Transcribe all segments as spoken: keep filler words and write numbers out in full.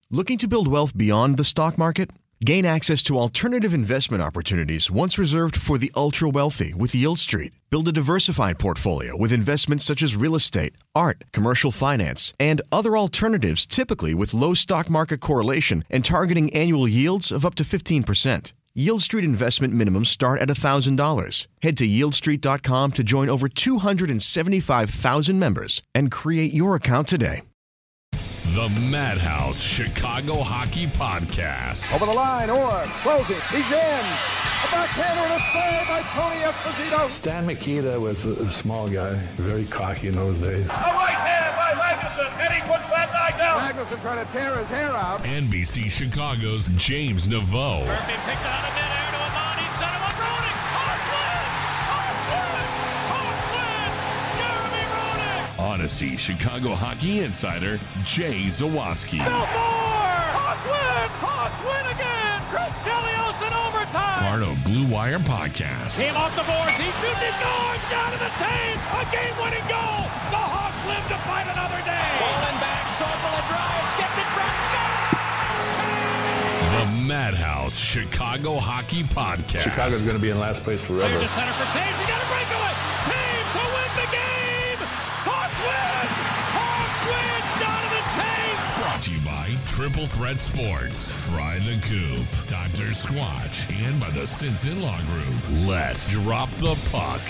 Looking to build wealth beyond the stock market? Gain access to alternative investment opportunities once reserved for the ultra-wealthy with Yield Street. Build a diversified portfolio with investments such as real estate, art, commercial finance, and other alternatives typically with low stock market correlation and targeting annual yields of up to fifteen percent. Yield Street investment minimums start at one thousand dollars. Head to yield street dot com to join over two hundred seventy-five thousand members and create your account today. The Madhouse Chicago Hockey Podcast. Over the line, Orr, closing, he's in. A backhander and a save by Tony Esposito. Stan Mikita was a, a small guy, very cocky in those days. A right hand by Magnuson, and he puts that guy down. Magnuson trying to tear his hair out. N B C Chicago's James Neveau. Murphy picked out of midair to Amani, set him up, Roenick. Hartland! Hartland! Hartland! Jeremy Roenick! Odyssey Chicago Hockey Insider Jay Zawaski. Belfort! Hawks win! Hawks win again! Chris Chelios in overtime! Fardo Blue Wire Podcast. Team off the boards, he shoots, he's gone! Down to the Taves! A game-winning goal! The Hawks live to fight another day! Falling back, Sorbola drives, gets it from Scott! The Madhouse Chicago Hockey Podcast. Chicago's going to be in last place forever. Clear to center for Taves, he got a breakaway! Taves to win the game! Hawks win! Hawks win! Jonathan Taves! Brought to you by Triple Threat Sports, Fry the Coop, Doctor Squatch, and by the Simpson Law Group. Let's drop the puck.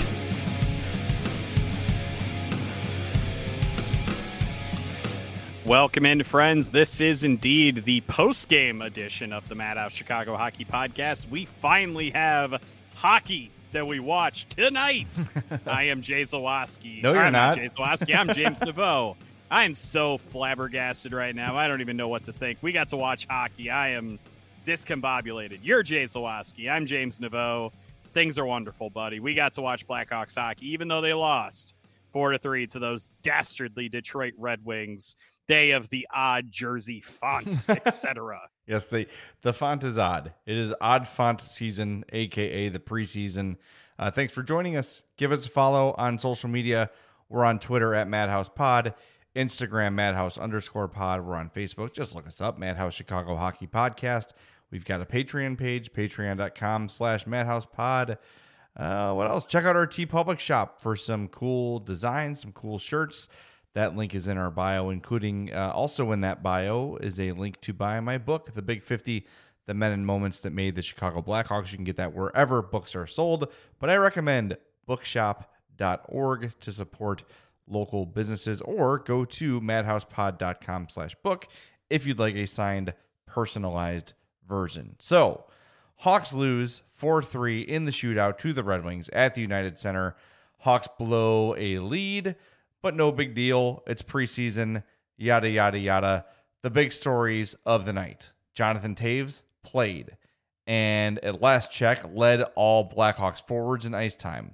Welcome in, friends. This is indeed the post-game edition of the Madhouse Chicago Hockey Podcast. We finally have hockey that we watch tonight. I am Jay Zawaski. No, you're I'm not. Jay Zawaski. I'm James Neveau. I am so flabbergasted right now. I don't even know what to think. We got to watch hockey. I am discombobulated. You're Jay Zawaski. I'm James Neveau. Things are wonderful, buddy. We got to watch Blackhawks hockey, even though they lost four to three to those dastardly Detroit Red Wings. Day of the odd jersey fonts, et cetera. Yes, the the font is odd. It is odd font season, aka the preseason. Uh, thanks for joining us. Give us a follow on social media. We're on Twitter at Madhouse Pod, Instagram Madhouse underscore Pod. We're on Facebook. Just look us up, Madhouse Chicago Hockey Podcast. We've got a Patreon page, patreon dot com slash Madhouse Pod. Uh, what else? Check out our TeePublic shop for some cool designs, some cool shirts. That link is in our bio, including uh, also in that bio is a link to buy my book, The Big fifty, The Men and Moments That Made the Chicago Blackhawks. You can get that wherever books are sold, but I recommend bookshop dot org to support local businesses, or go to madhousepod dot com slash book if you'd like a signed, personalized version. So, Hawks lose four three in the shootout to the Red Wings at the United Center. Hawks blow a lead, but no big deal. It's preseason, yada, yada, yada. The big stories of the night. Jonathan Taves played, and at last check, led all Blackhawks forwards in ice time.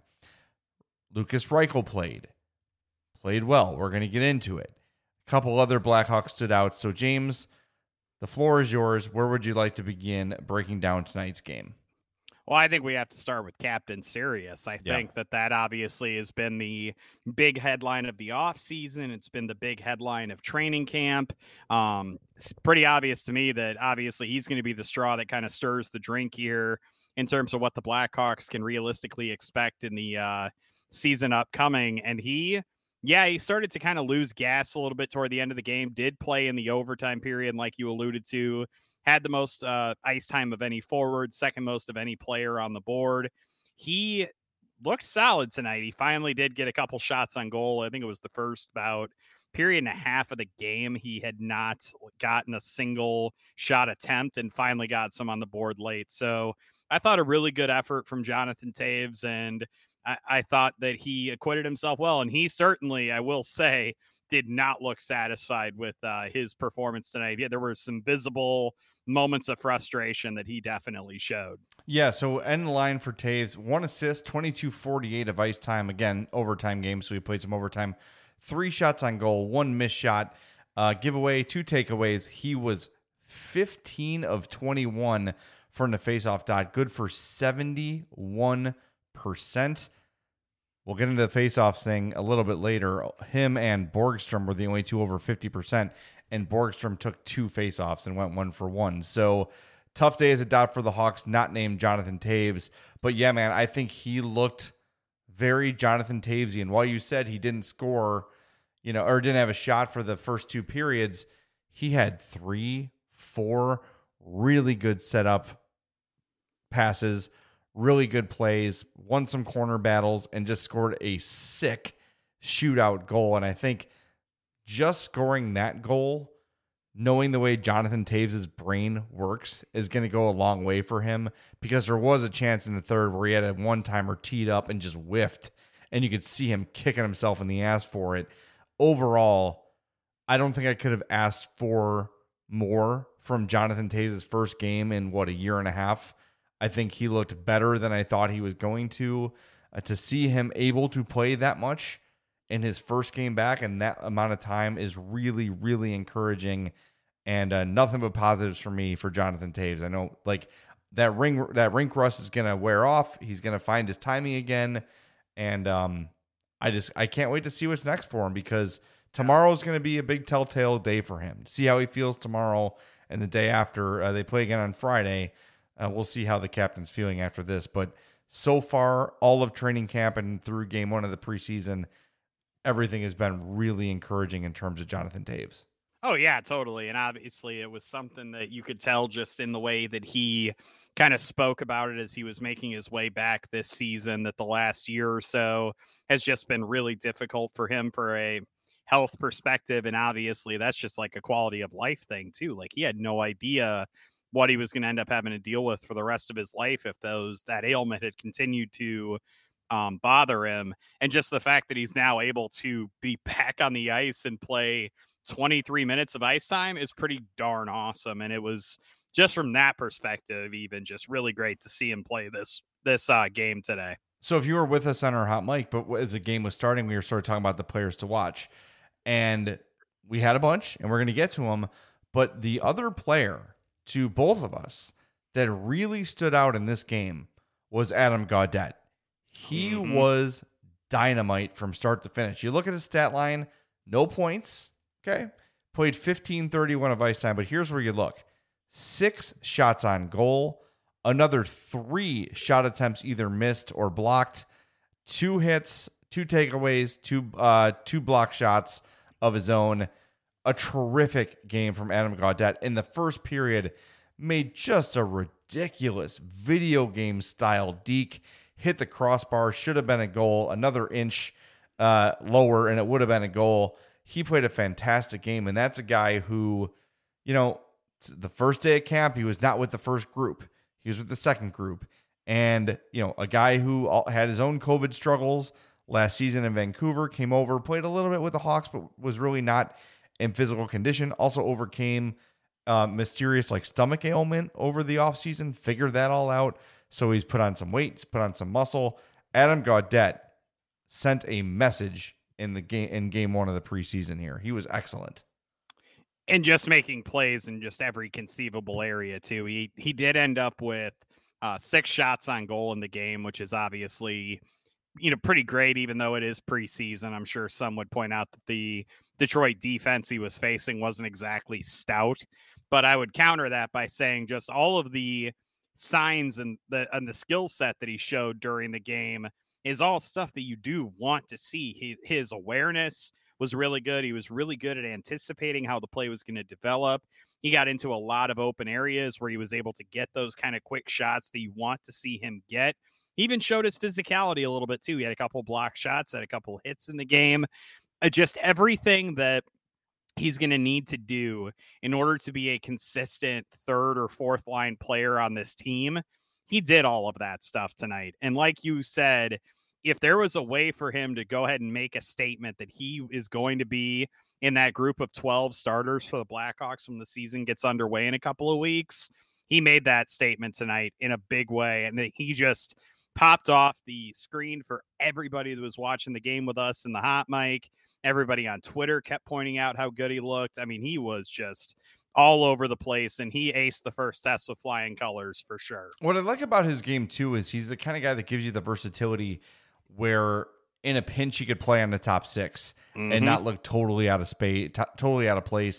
Lucas Reichel played. Played well. We're going to get into it. A couple other Blackhawks stood out. So, James, the floor is yours. Where would you like to begin breaking down tonight's game? Well, I think we have to start with Captain Sirius. I Yeah. think that that obviously has been the big headline of the offseason. It's been the big headline of training camp. Um, it's pretty obvious to me that obviously he's going to be the straw that kind of stirs the drink here in terms of what the Blackhawks can realistically expect in the uh, season upcoming. And he, yeah, he started to kind of lose gas a little bit toward the end of the game, did play in the overtime period like you alluded to. Had the most uh, ice time of any forward, second most of any player on the board. He looked solid tonight. He finally did get a couple shots on goal. I think it was the first about period and a half of the game. He had not gotten a single shot attempt and finally got some on the board late. So I thought a really good effort from Jonathan Taves, and I, I thought that he acquitted himself well. And he certainly, I will say, did not look satisfied with uh, his performance tonight. Yeah, there were some visible moments of frustration that he definitely showed. Yeah, so end line for Taves, one assist, twenty-two forty-eight of ice time. Again, overtime game, so he played some overtime. Three shots on goal, one missed shot, uh, giveaway, two takeaways. He was fifteen of twenty-one from the faceoff dot, good for seventy-one percent. We'll get into the faceoffs thing a little bit later. Him and Borgstrom were the only two over fifty percent. and Borgstrom took two faceoffs and went one for one. So tough day at the dot for the Hawks, not named Jonathan Toews. But yeah, man, I think he looked very Jonathan Toews-y. While you said he didn't score, you know, or didn't have a shot for the first two periods, he had three, four really good setup passes, really good plays, won some corner battles, and just scored a sick shootout goal. And I think just scoring that goal, knowing the way Jonathan Toews' brain works, is going to go a long way for him, because there was a chance in the third where he had a one-timer teed up and just whiffed, and you could see him kicking himself in the ass for it. Overall, I don't think I could have asked for more from Jonathan Toews' first game in, what, a year and a half. I think he looked better than I thought he was going to. Uh, to see him able to play that much in his first game back and that amount of time is really, really encouraging, and uh, nothing but positives for me for Jonathan Toews. I know, like, that ring that rink rust is going to wear off. He's going to find his timing again, and um, I just I can't wait to see what's next for him, because tomorrow is going to be a big telltale day for him. See how he feels tomorrow and the day after. Uh, they play again on Friday. Uh, we'll see how the captain's feeling after this. But so far, all of training camp and through game one of the preseason, everything has been really encouraging in terms of Jonathan Toews. Oh, yeah, totally. And obviously it was something that you could tell just in the way that he kind of spoke about it as he was making his way back this season, that the last year or so has just been really difficult for him for a health perspective. And obviously that's just like a quality of life thing too. Like, he had no idea what he was going to end up having to deal with for the rest of his life if those that ailment had continued to um, bother him. And just the fact that he's now able to be back on the ice and play twenty-three minutes of ice time is pretty darn awesome. And it was just from that perspective, even just really great to see him play this this uh, game today. So if you were with us on our hot mic, but as the game was starting, we were sort of talking about the players to watch, and we had a bunch, and we're going to get to them. But the other player to both of us that really stood out in this game was Adam Gaudette. He mm-hmm. was dynamite from start to finish. You look at his stat line, no points. Okay. Played fifteen thirty-one of ice time, but here's where you look. Six shots on goal, another three shot attempts either missed or blocked, two hits, two takeaways, two uh, two block shots of his own. A terrific game from Adam Gaudette. In the first period, made just a ridiculous video game style deke, hit the crossbar, should have been a goal, another inch uh, lower, and it would have been a goal. He played a fantastic game, and that's a guy who, you know, the first day of camp, he was not with the first group. He was with the second group. And, you know, a guy who had his own COVID struggles last season in Vancouver, came over, played a little bit with the Hawks, but was really not in physical condition. Also overcame uh, mysterious like stomach ailment over the offseason, figured that all out. So he's put on some weight, he's put on some muscle. Adam Gaudette sent a message in the game in game one of the preseason here. He was excellent. And just making plays in just every conceivable area too. He he did end up with uh, six shots on goal in the game, which is obviously, you know, pretty great, even though it is preseason. I'm sure some would point out that the Detroit defense he was facing wasn't exactly stout, but I would counter that by saying just all of the signs and the and the skill set that he showed during the game is all stuff that you do want to see. He, his awareness was really good. He was really good at anticipating how the play was going to develop. He got into a lot of open areas where he was able to get those kind of quick shots that you want to see him get. He even showed his physicality a little bit too. He had a couple block shots, had a couple hits in the game. Uh, just everything that he's going to need to do in order to be a consistent third or fourth line player on this team. He did all of that stuff tonight. And like you said, if there was a way for him to go ahead and make a statement that he is going to be in that group of twelve starters for the Blackhawks when the season gets underway in a couple of weeks, he made that statement tonight in a big way. And he just popped off the screen for everybody that was watching the game with us in the hot mic. Everybody on Twitter kept pointing out how good he looked. I mean, he was just all over the place, and he aced the first test with flying colors for sure. What I like about his game too is he's the kind of guy that gives you the versatility where in a pinch he could play on the top six mm-hmm. and not look totally out of space, t- totally out of place.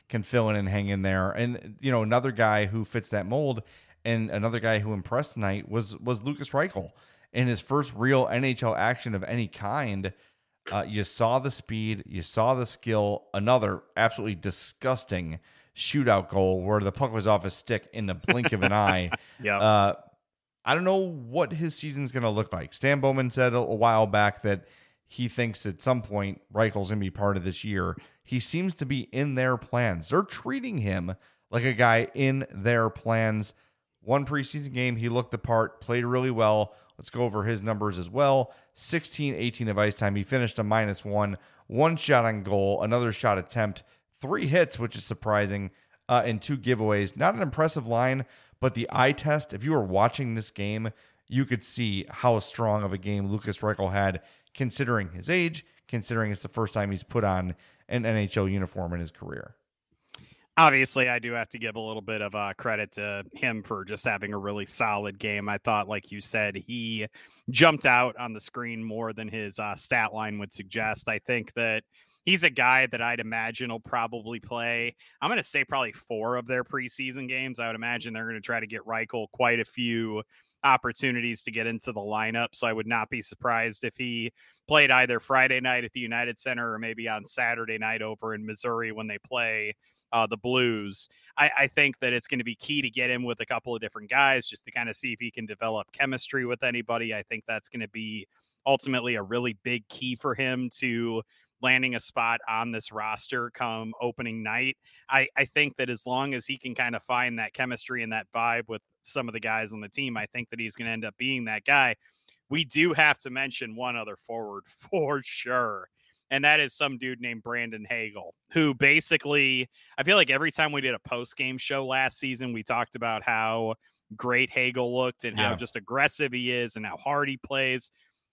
can fill in and hang in there. And, you know, another guy who fits that mold and another guy who impressed tonight was, was Lukas Reichel. In his first real N H L action of any kind, uh, you saw the speed, you saw the skill, another absolutely disgusting shootout goal where the puck was off his stick in the blink of an eye. Yeah. Uh, I don't know what his season's going to look like. Stan Bowman said a, a while back that he thinks at some point Reichel's going to be part of this year. He seems to be in their plans. They're treating him like a guy in their plans. One preseason game, he looked the part, played really well. Let's go over his numbers as well. sixteen eighteen of ice time. He finished a minus one. One shot on goal, another shot attempt, three hits, which is surprising, uh, and two giveaways. Not an impressive line, but the eye test, if you were watching this game, you could see how strong of a game Lukas Reichel had, considering his age, considering it's the first time he's put on an N H L uniform in his career. Obviously, I do have to give a little bit of uh, credit to him for just having a really solid game. I thought, like you said, he jumped out on the screen more than his uh, stat line would suggest. I think that he's a guy that I'd imagine will probably play, I'm going to say probably four of their preseason games. I would imagine they're going to try to get Reichel quite a few opportunities to get into the lineup. So I would not be surprised if he played either Friday night at the United Center or maybe on Saturday night over in Missouri when they play Uh, the Blues. I, I think that it's going to be key to get him with a couple of different guys just to kind of see if he can develop chemistry with anybody. I think that's going to be ultimately a really big key for him to landing a spot on this roster come opening night. I, I think that as long as he can kind of find that chemistry and that vibe with some of the guys on the team, I think that he's going to end up being that guy. We do have to mention one other forward for sure. And that is some dude named Brandon Hagel, who basically, I feel like every time we did a post-game show last season, we talked about how great Hagel looked and yeah. how just aggressive he is and how hard he plays.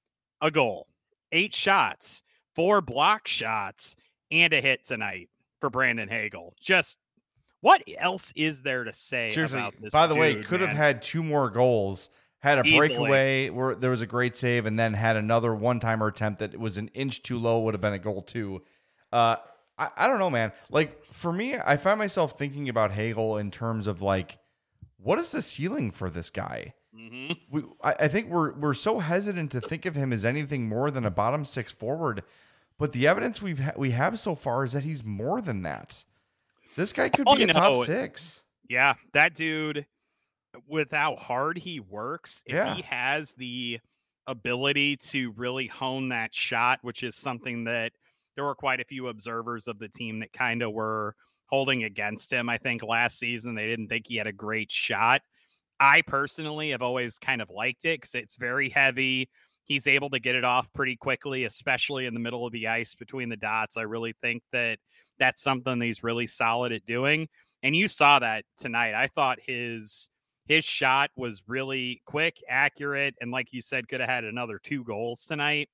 A goal, eight shots, four block shots, and a hit tonight for Brandon Hagel. Just what else is there to say Seriously, about this by the dude, way, could man? have had two more goals. Had a Easily. breakaway where there was a great save, and then had another one-timer attempt that was an inch too low, would have been a goal too. Uh, I, I don't know, man. Like, for me, I find myself thinking about Hagel in terms of, like, what is the ceiling for this guy? Mm-hmm. We, I, I think we're we're so hesitant to think of him as anything more than a bottom six forward, but the evidence we've ha- we have so far is that he's more than that. This guy could Oh, be a you top know, six. Yeah, that dude, with how hard he works, if Yeah. he has the ability to really hone that shot, which is something that there were quite a few observers of the team that kind of were holding against him. I think last season they didn't think he had a great shot. I personally have always kind of liked it because it's very heavy. He's able to get it off pretty quickly, especially in the middle of the ice between the dots. I really think that that's something that he's really solid at doing. And you saw that tonight. I thought his his shot was really quick, accurate, and like you said, could have had another two goals tonight.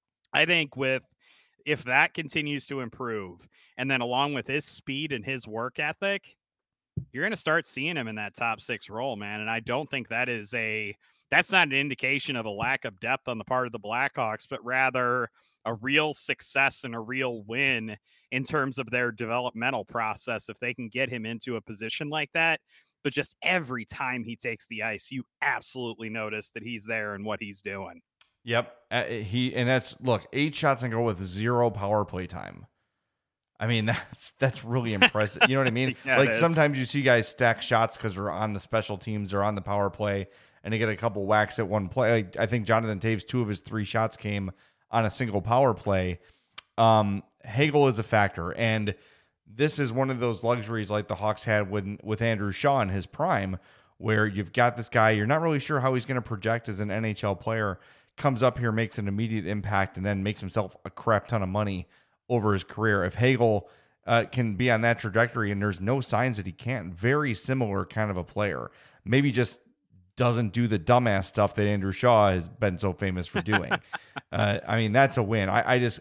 I think with if that continues to improve, and then along with his speed and his work ethic, you're going to start seeing him in that top six role, man. And I don't think that is a, that's not an indication of a lack of depth on the part of the Blackhawks, but rather a real success and a real win in terms of their developmental process. If they can get him into a position like that, but just every time he takes the ice, you absolutely notice that he's there and what he's doing. Yep. Uh, he, and that's, look, eight shots and go with zero power play time. I mean, that, that's really impressive. You know what I mean? Yeah, like sometimes you see guys stack shots because they're on the special teams or on the power play and they get a couple whacks at one play. Like, I think Jonathan Taves, two of his three shots came on a single power play. Um, Hagel is a factor. And this is one of those luxuries like the Hawks had when, with Andrew Shaw in his prime, where you've got this guy, you're not really sure how he's going to project as an N H L player, comes up here, makes an immediate impact, and then makes himself a crap ton of money over his career. If Hagel uh, can be on that trajectory, and there's no signs that he can't, very similar kind of a player, maybe just doesn't do the dumbass stuff that Andrew Shaw has been so famous for doing. uh, I mean, that's a win. I, I just,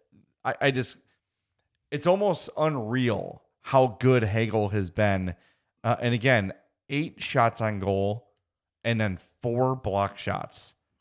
I, I just, it's almost unreal how good Hagel has been. Uh, and again, eight shots on goal and then four block shots.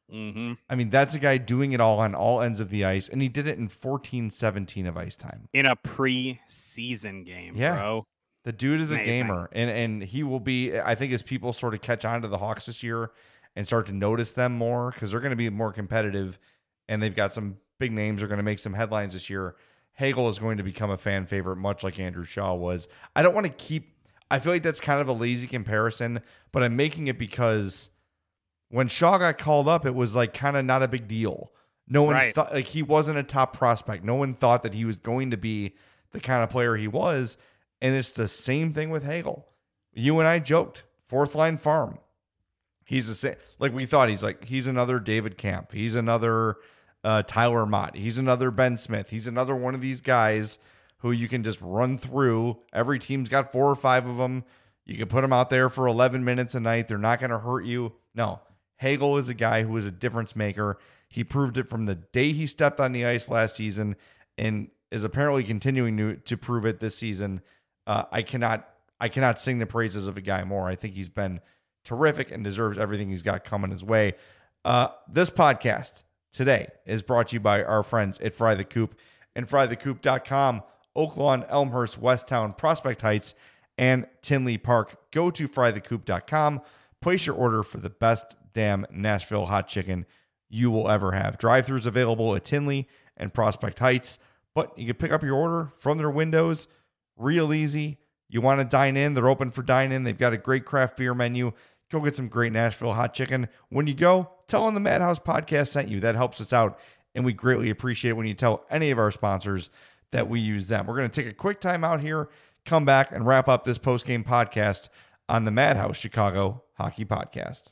Mm-hmm. I mean, that's a guy doing it all on all ends of the ice, and he did it in fourteen seventeen of ice time. In a preseason game, yeah. bro. The dude it's is amazing. a gamer, and, and he will be, I think, as people sort of catch on to the Hawks this year and start to notice them more, because they're going to be more competitive, and they've got some big names. They're going to make some headlines this year. Hagel is going to become a fan favorite, much like Andrew Shaw was. I don't want to keep, I feel like that's kind of a lazy comparison, but I'm making it because when Shaw got called up, it was like kind of not a big deal. No one right. thought, like, he wasn't a top prospect. No one thought that he was going to be the kind of player he was. And it's the same thing with Hagel. You and I joked, fourth line farm. He's the same. Like we thought, he's like, he's another David Camp. He's another uh, Tyler Mott. He's another Ben Smith. He's another one of these guys who you can just run through. Every team's got four or five of them. You can put them out there for eleven minutes a night. They're not going to hurt you. No, Hagel is a guy who is a difference maker. He proved it from the day he stepped on the ice last season and is apparently continuing to, to prove it this season. Uh, I cannot I cannot sing the praises of a guy more. I think he's been terrific and deserves everything he's got coming his way. Uh, this podcast today is brought to you by our friends at Fry the Coop and fry the coop dot com, Oak Lawn, Elmhurst, Westtown, Prospect Heights, and Tinley Park. Go to fry the coop dot com. Place your order for the best damn Nashville hot chicken you will ever have. Drive-thrus available at Tinley and Prospect Heights, but you can pick up your order from their windows. Real easy. You want to dine in, they're open for dine in. They've got a great craft beer menu. Go get some great Nashville hot chicken. When you go, tell them the Madhouse Podcast sent you. That helps us out, and we greatly appreciate it when you tell any of our sponsors that we use them. We're going to take a quick time out here, come back, and wrap up this post-game podcast on the Madhouse Chicago Hockey Podcast.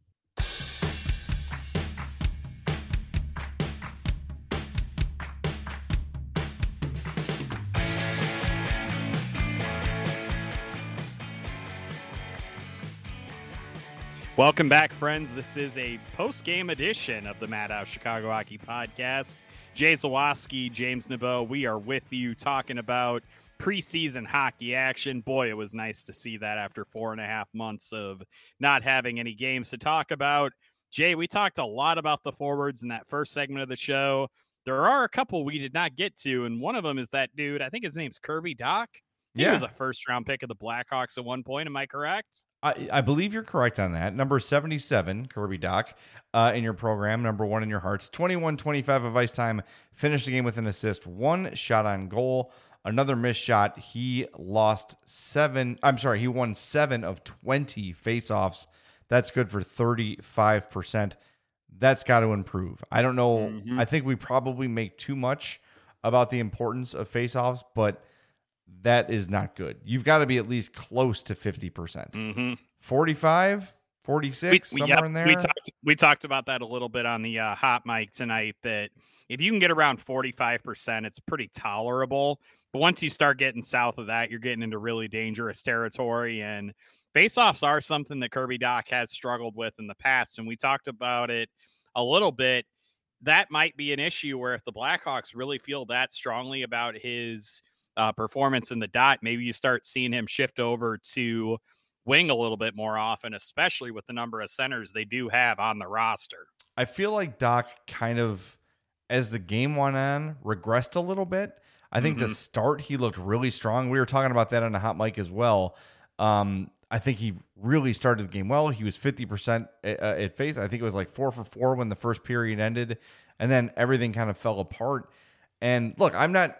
Welcome back, friends. This is a post-game edition of the Madhouse Chicago Hockey Podcast. Jay Zawaski, James Naveau, we are with you talking about preseason hockey action. Boy, it was nice to see that after four and a half months of not having any games to talk about. Jay, we talked a lot about the forwards in that first segment of the show. There are a couple we did not get to, and one of them is that dude, I think his name's Kirby Dach. He yeah. was a first-round pick of the Blackhawks at one point. Am I correct? I, I believe you're correct on that. Number seventy-seven, Kirby Dach, uh, in your program. Number one in your hearts. twenty-one twenty-five of ice time. Finished the game with an assist. One shot on goal. Another missed shot. He lost seven. I'm sorry. He won seven of twenty faceoffs. That's good for thirty-five percent. That's got to improve. I don't know. Mm-hmm. I think we probably make too much about the importance of faceoffs, but that is not good. You've got to be at least close to fifty percent. Mm-hmm. forty-five, forty-six, we, somewhere yep, in there. We talked, we talked about that a little bit on the uh, hot mic tonight, that if you can get around forty-five percent, it's pretty tolerable. But once you start getting south of that, you're getting into really dangerous territory. And faceoffs are something that Kirby Dach has struggled with in the past. And we talked about it a little bit. That might be an issue where if the Blackhawks really feel that strongly about his Uh, performance in the dot, maybe you start seeing him shift over to wing a little bit more often, especially with the number of centers they do have on the roster. I feel like Dach kind of, as the game went on, regressed a little bit. I think mm-hmm. to start, he looked really strong. We were talking about that on the hot mic as well. Um, I think he really started the game well. He was fifty percent at, uh, at face. I think it was like four for four when the first period ended, and then everything kind of fell apart. And look, I'm not,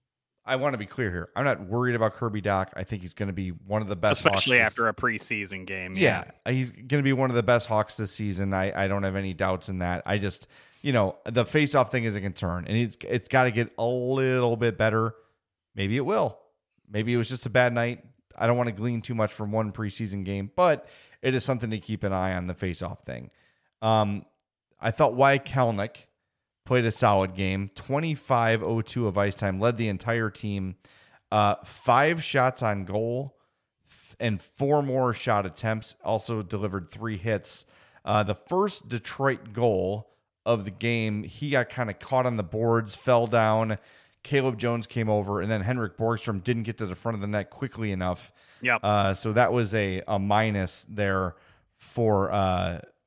I want to be clear here. I'm not worried about Kirby Dach. I think he's going to be one of the best, especially Hawks after a preseason game. Yeah, yeah. he's going to be one of the best Hawks this season. I, I don't have any doubts in that. I just, you know, the face-off thing is a concern, and it's it's got to get a little bit better. Maybe it will. Maybe it was just a bad night. I don't want to glean too much from one preseason game, but it is something to keep an eye on, the face-off thing. Um, I thought Wyatt Kelenic played a solid game. twenty-five oh two of ice time, led the entire team. Uh, five shots on goal and four more shot attempts. Also delivered three hits. Uh, the first Detroit goal of the game, he got kind of caught on the boards, fell down. Caleb Jones came over, and then Henrik Borgstrom didn't get to the front of the net quickly enough. Yep. Uh, so that was a, a minus there for uh,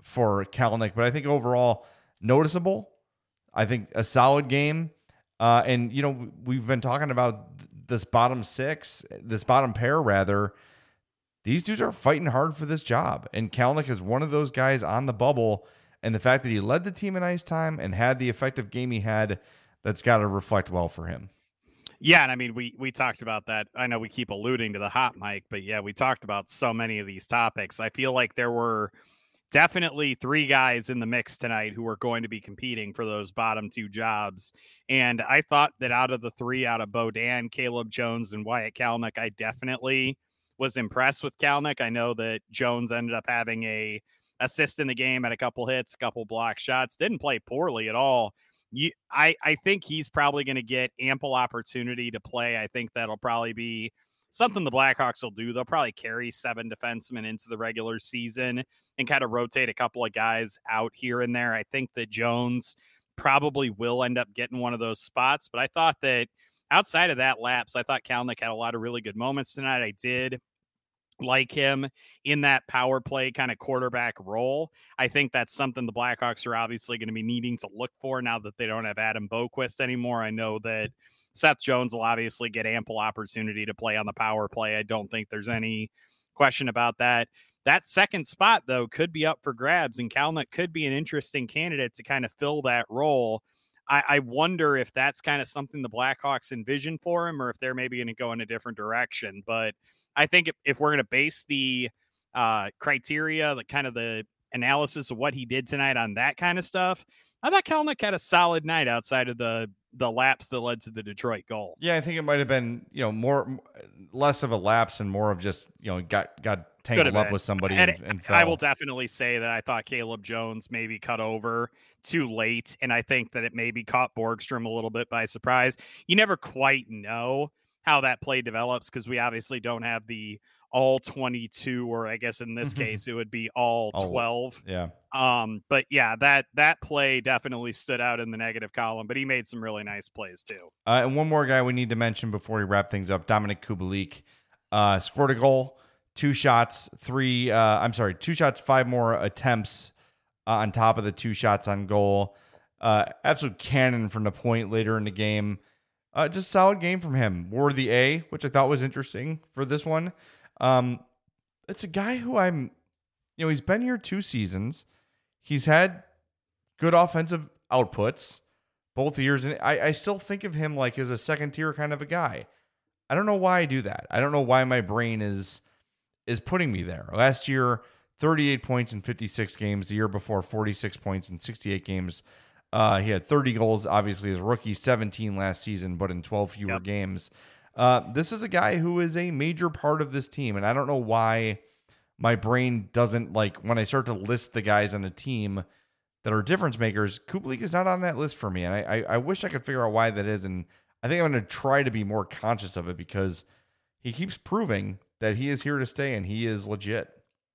for Kalanick, but I think overall noticeable. I think a solid game. Uh, and, you know, we've been talking about this bottom six, this bottom pair, rather. These dudes are fighting hard for this job. And Kalanick is one of those guys on the bubble. And the fact that he led the team in ice time and had the effective game he had, that's got to reflect well for him. Yeah, and I mean, we we talked about that. I know we keep alluding to the hot mic, but yeah, we talked about so many of these topics. I feel like there were definitely three guys in the mix tonight who were going to be competing for those bottom two jobs. And I thought that out of the three, out of Beaudin, Caleb Jones, and Wyatt Kalanick, I definitely was impressed with Kalanick. I know that Jones ended up having a assist in the game, at a couple hits, a couple block shots, didn't play poorly at all. You, I, I think he's probably going to get ample opportunity to play. I think that'll probably be something the Blackhawks will do. They'll probably carry seven defensemen into the regular season and kind of rotate a couple of guys out here and there. I think that Jones probably will end up getting one of those spots, but I thought that outside of that lapse, I thought Kalanick had a lot of really good moments tonight. I did like him in that power play kind of quarterback role. I think that's something the Blackhawks are obviously going to be needing to look for now that they don't have Adam Boquist anymore. I know that Seth Jones will obviously get ample opportunity to play on the power play. I don't think there's any question about that. That second spot, though, could be up for grabs, and Kalanick could be an interesting candidate to kind of fill that role. I, I wonder if that's kind of something the Blackhawks envision for him, or if they're maybe going to go in a different direction. But I think if, if we're going to base the uh, criteria, the kind of the analysis of what he did tonight on that kind of stuff, I thought Kalanick had a solid night outside of the the lapse that led to the Detroit goal. Yeah, I think it might have been, you know, more less of a lapse and more of just, you know, got got tangled up with somebody and, and, and fell. I will definitely say that I thought Caleb Jones maybe cut over too late, and I think that it maybe caught Borgstrom a little bit by surprise. You never quite know how that play develops because we obviously don't have the all twenty-two, or I guess in this case it would be all twelve. Oh, yeah. Um, but yeah, that that play definitely stood out in the negative column, but he made some really nice plays too. Uh, and one more guy we need to mention before we wrap things up, Dominik Kubalik, uh, scored a goal, two shots, three, uh, I'm sorry, two shots, five more attempts uh, on top of the two shots on goal. Uh, absolute cannon from the point later in the game. Uh, just solid game from him. Wore the A, which I thought was interesting for this one. Um, it's a guy who I'm, you know, he's been here two seasons. He's had good offensive outputs both years. And I, I still think of him like as a second tier kind of a guy. I don't know why I do that. I don't know why my brain is, is putting me there. Last year, thirty-eight points in fifty-six games. The year before, forty-six points in sixty-eight games. Uh, he had thirty goals, obviously, as a rookie, seventeen last season, but in twelve fewer yep. games. Uh, this is a guy who is a major part of this team, and I don't know why my brain doesn't, like, when I start to list the guys on the team that are difference makers, Kubalik is not on that list for me, and I, I, I wish I could figure out why that is, and I think I'm going to try to be more conscious of it because he keeps proving that he is here to stay, and he is legit.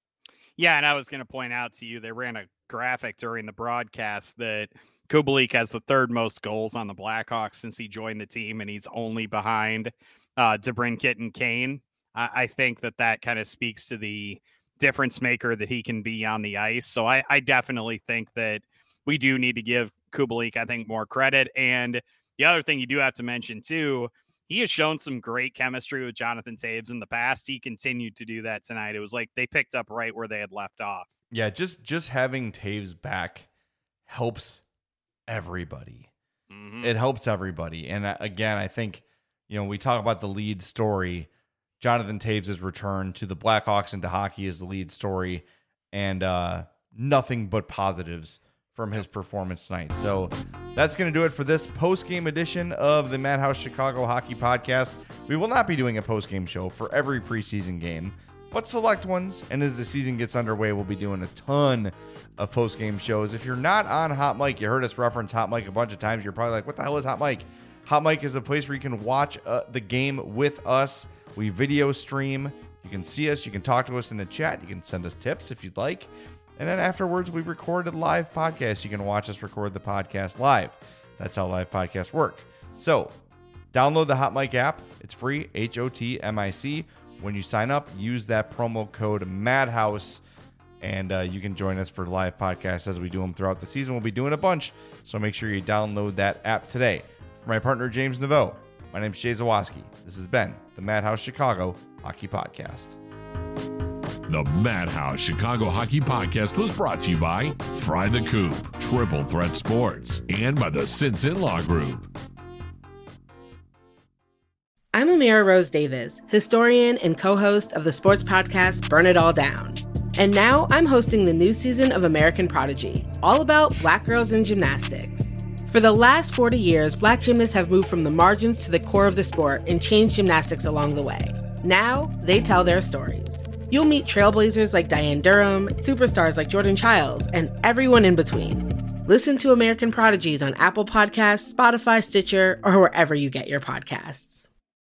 Yeah, and I was going to point out to you, they ran a graphic during the broadcast that Kubalik has the third most goals on the Blackhawks since he joined the team, and he's only behind uh, DeBrincat and Kane. I, I think that that kind of speaks to the difference maker that he can be on the ice. So I, I definitely think that we do need to give Kubalik, I think, more credit. And the other thing you do have to mention, too, he has shown some great chemistry with Jonathan Toews in the past. He continued to do that tonight. It was like they picked up right where they had left off. Yeah, just, just having Toews back helps everybody. Mm-hmm. It helps everybody. And uh, again, I think, you know, we talk about the lead story. Jonathan Toews' return to the Blackhawks and to hockey is the lead story, and uh, nothing but positives from his performance tonight. So that's going to do it for this post-game edition of the Madhouse Chicago Hockey Podcast. We will not be doing a post-game show for every preseason game, but select ones. And as the season gets underway, we'll be doing a ton of post-game shows. If you're not on Hot Mic, you heard us reference Hot Mic a bunch of times. You're probably like, what the hell is Hot Mic? Hot Mic is a place where you can watch uh, the game with us. We video stream. You can see us. You can talk to us in the chat. You can send us tips if you'd like. And then afterwards, we record a live podcast. You can watch us record the podcast live. That's how live podcasts work. So download the Hot Mic app. It's free, H O T M I C. When you sign up, use that promo code MADHOUSE. And uh, you can join us for live podcasts as we do them throughout the season. We'll be doing a bunch, so make sure you download that app today. For my partner, James Naveau, my name is Jay Zawaski. This has been the Madhouse Chicago Hockey Podcast. The Madhouse Chicago Hockey Podcast was brought to you by Fry the Coop, Triple Threat Sports, and by the Sinson Law Group. I'm Amira Rose Davis, historian and co-host of the sports podcast Burn It All Down. And now I'm hosting the new season of American Prodigy, all about Black girls in gymnastics. For the last forty years, Black gymnasts have moved from the margins to the core of the sport and changed gymnastics along the way. Now, they tell their stories. You'll meet trailblazers like Diane Durham, superstars like Jordan Childs, and everyone in between. Listen to American Prodigies on Apple Podcasts, Spotify, Stitcher, or wherever you get your podcasts.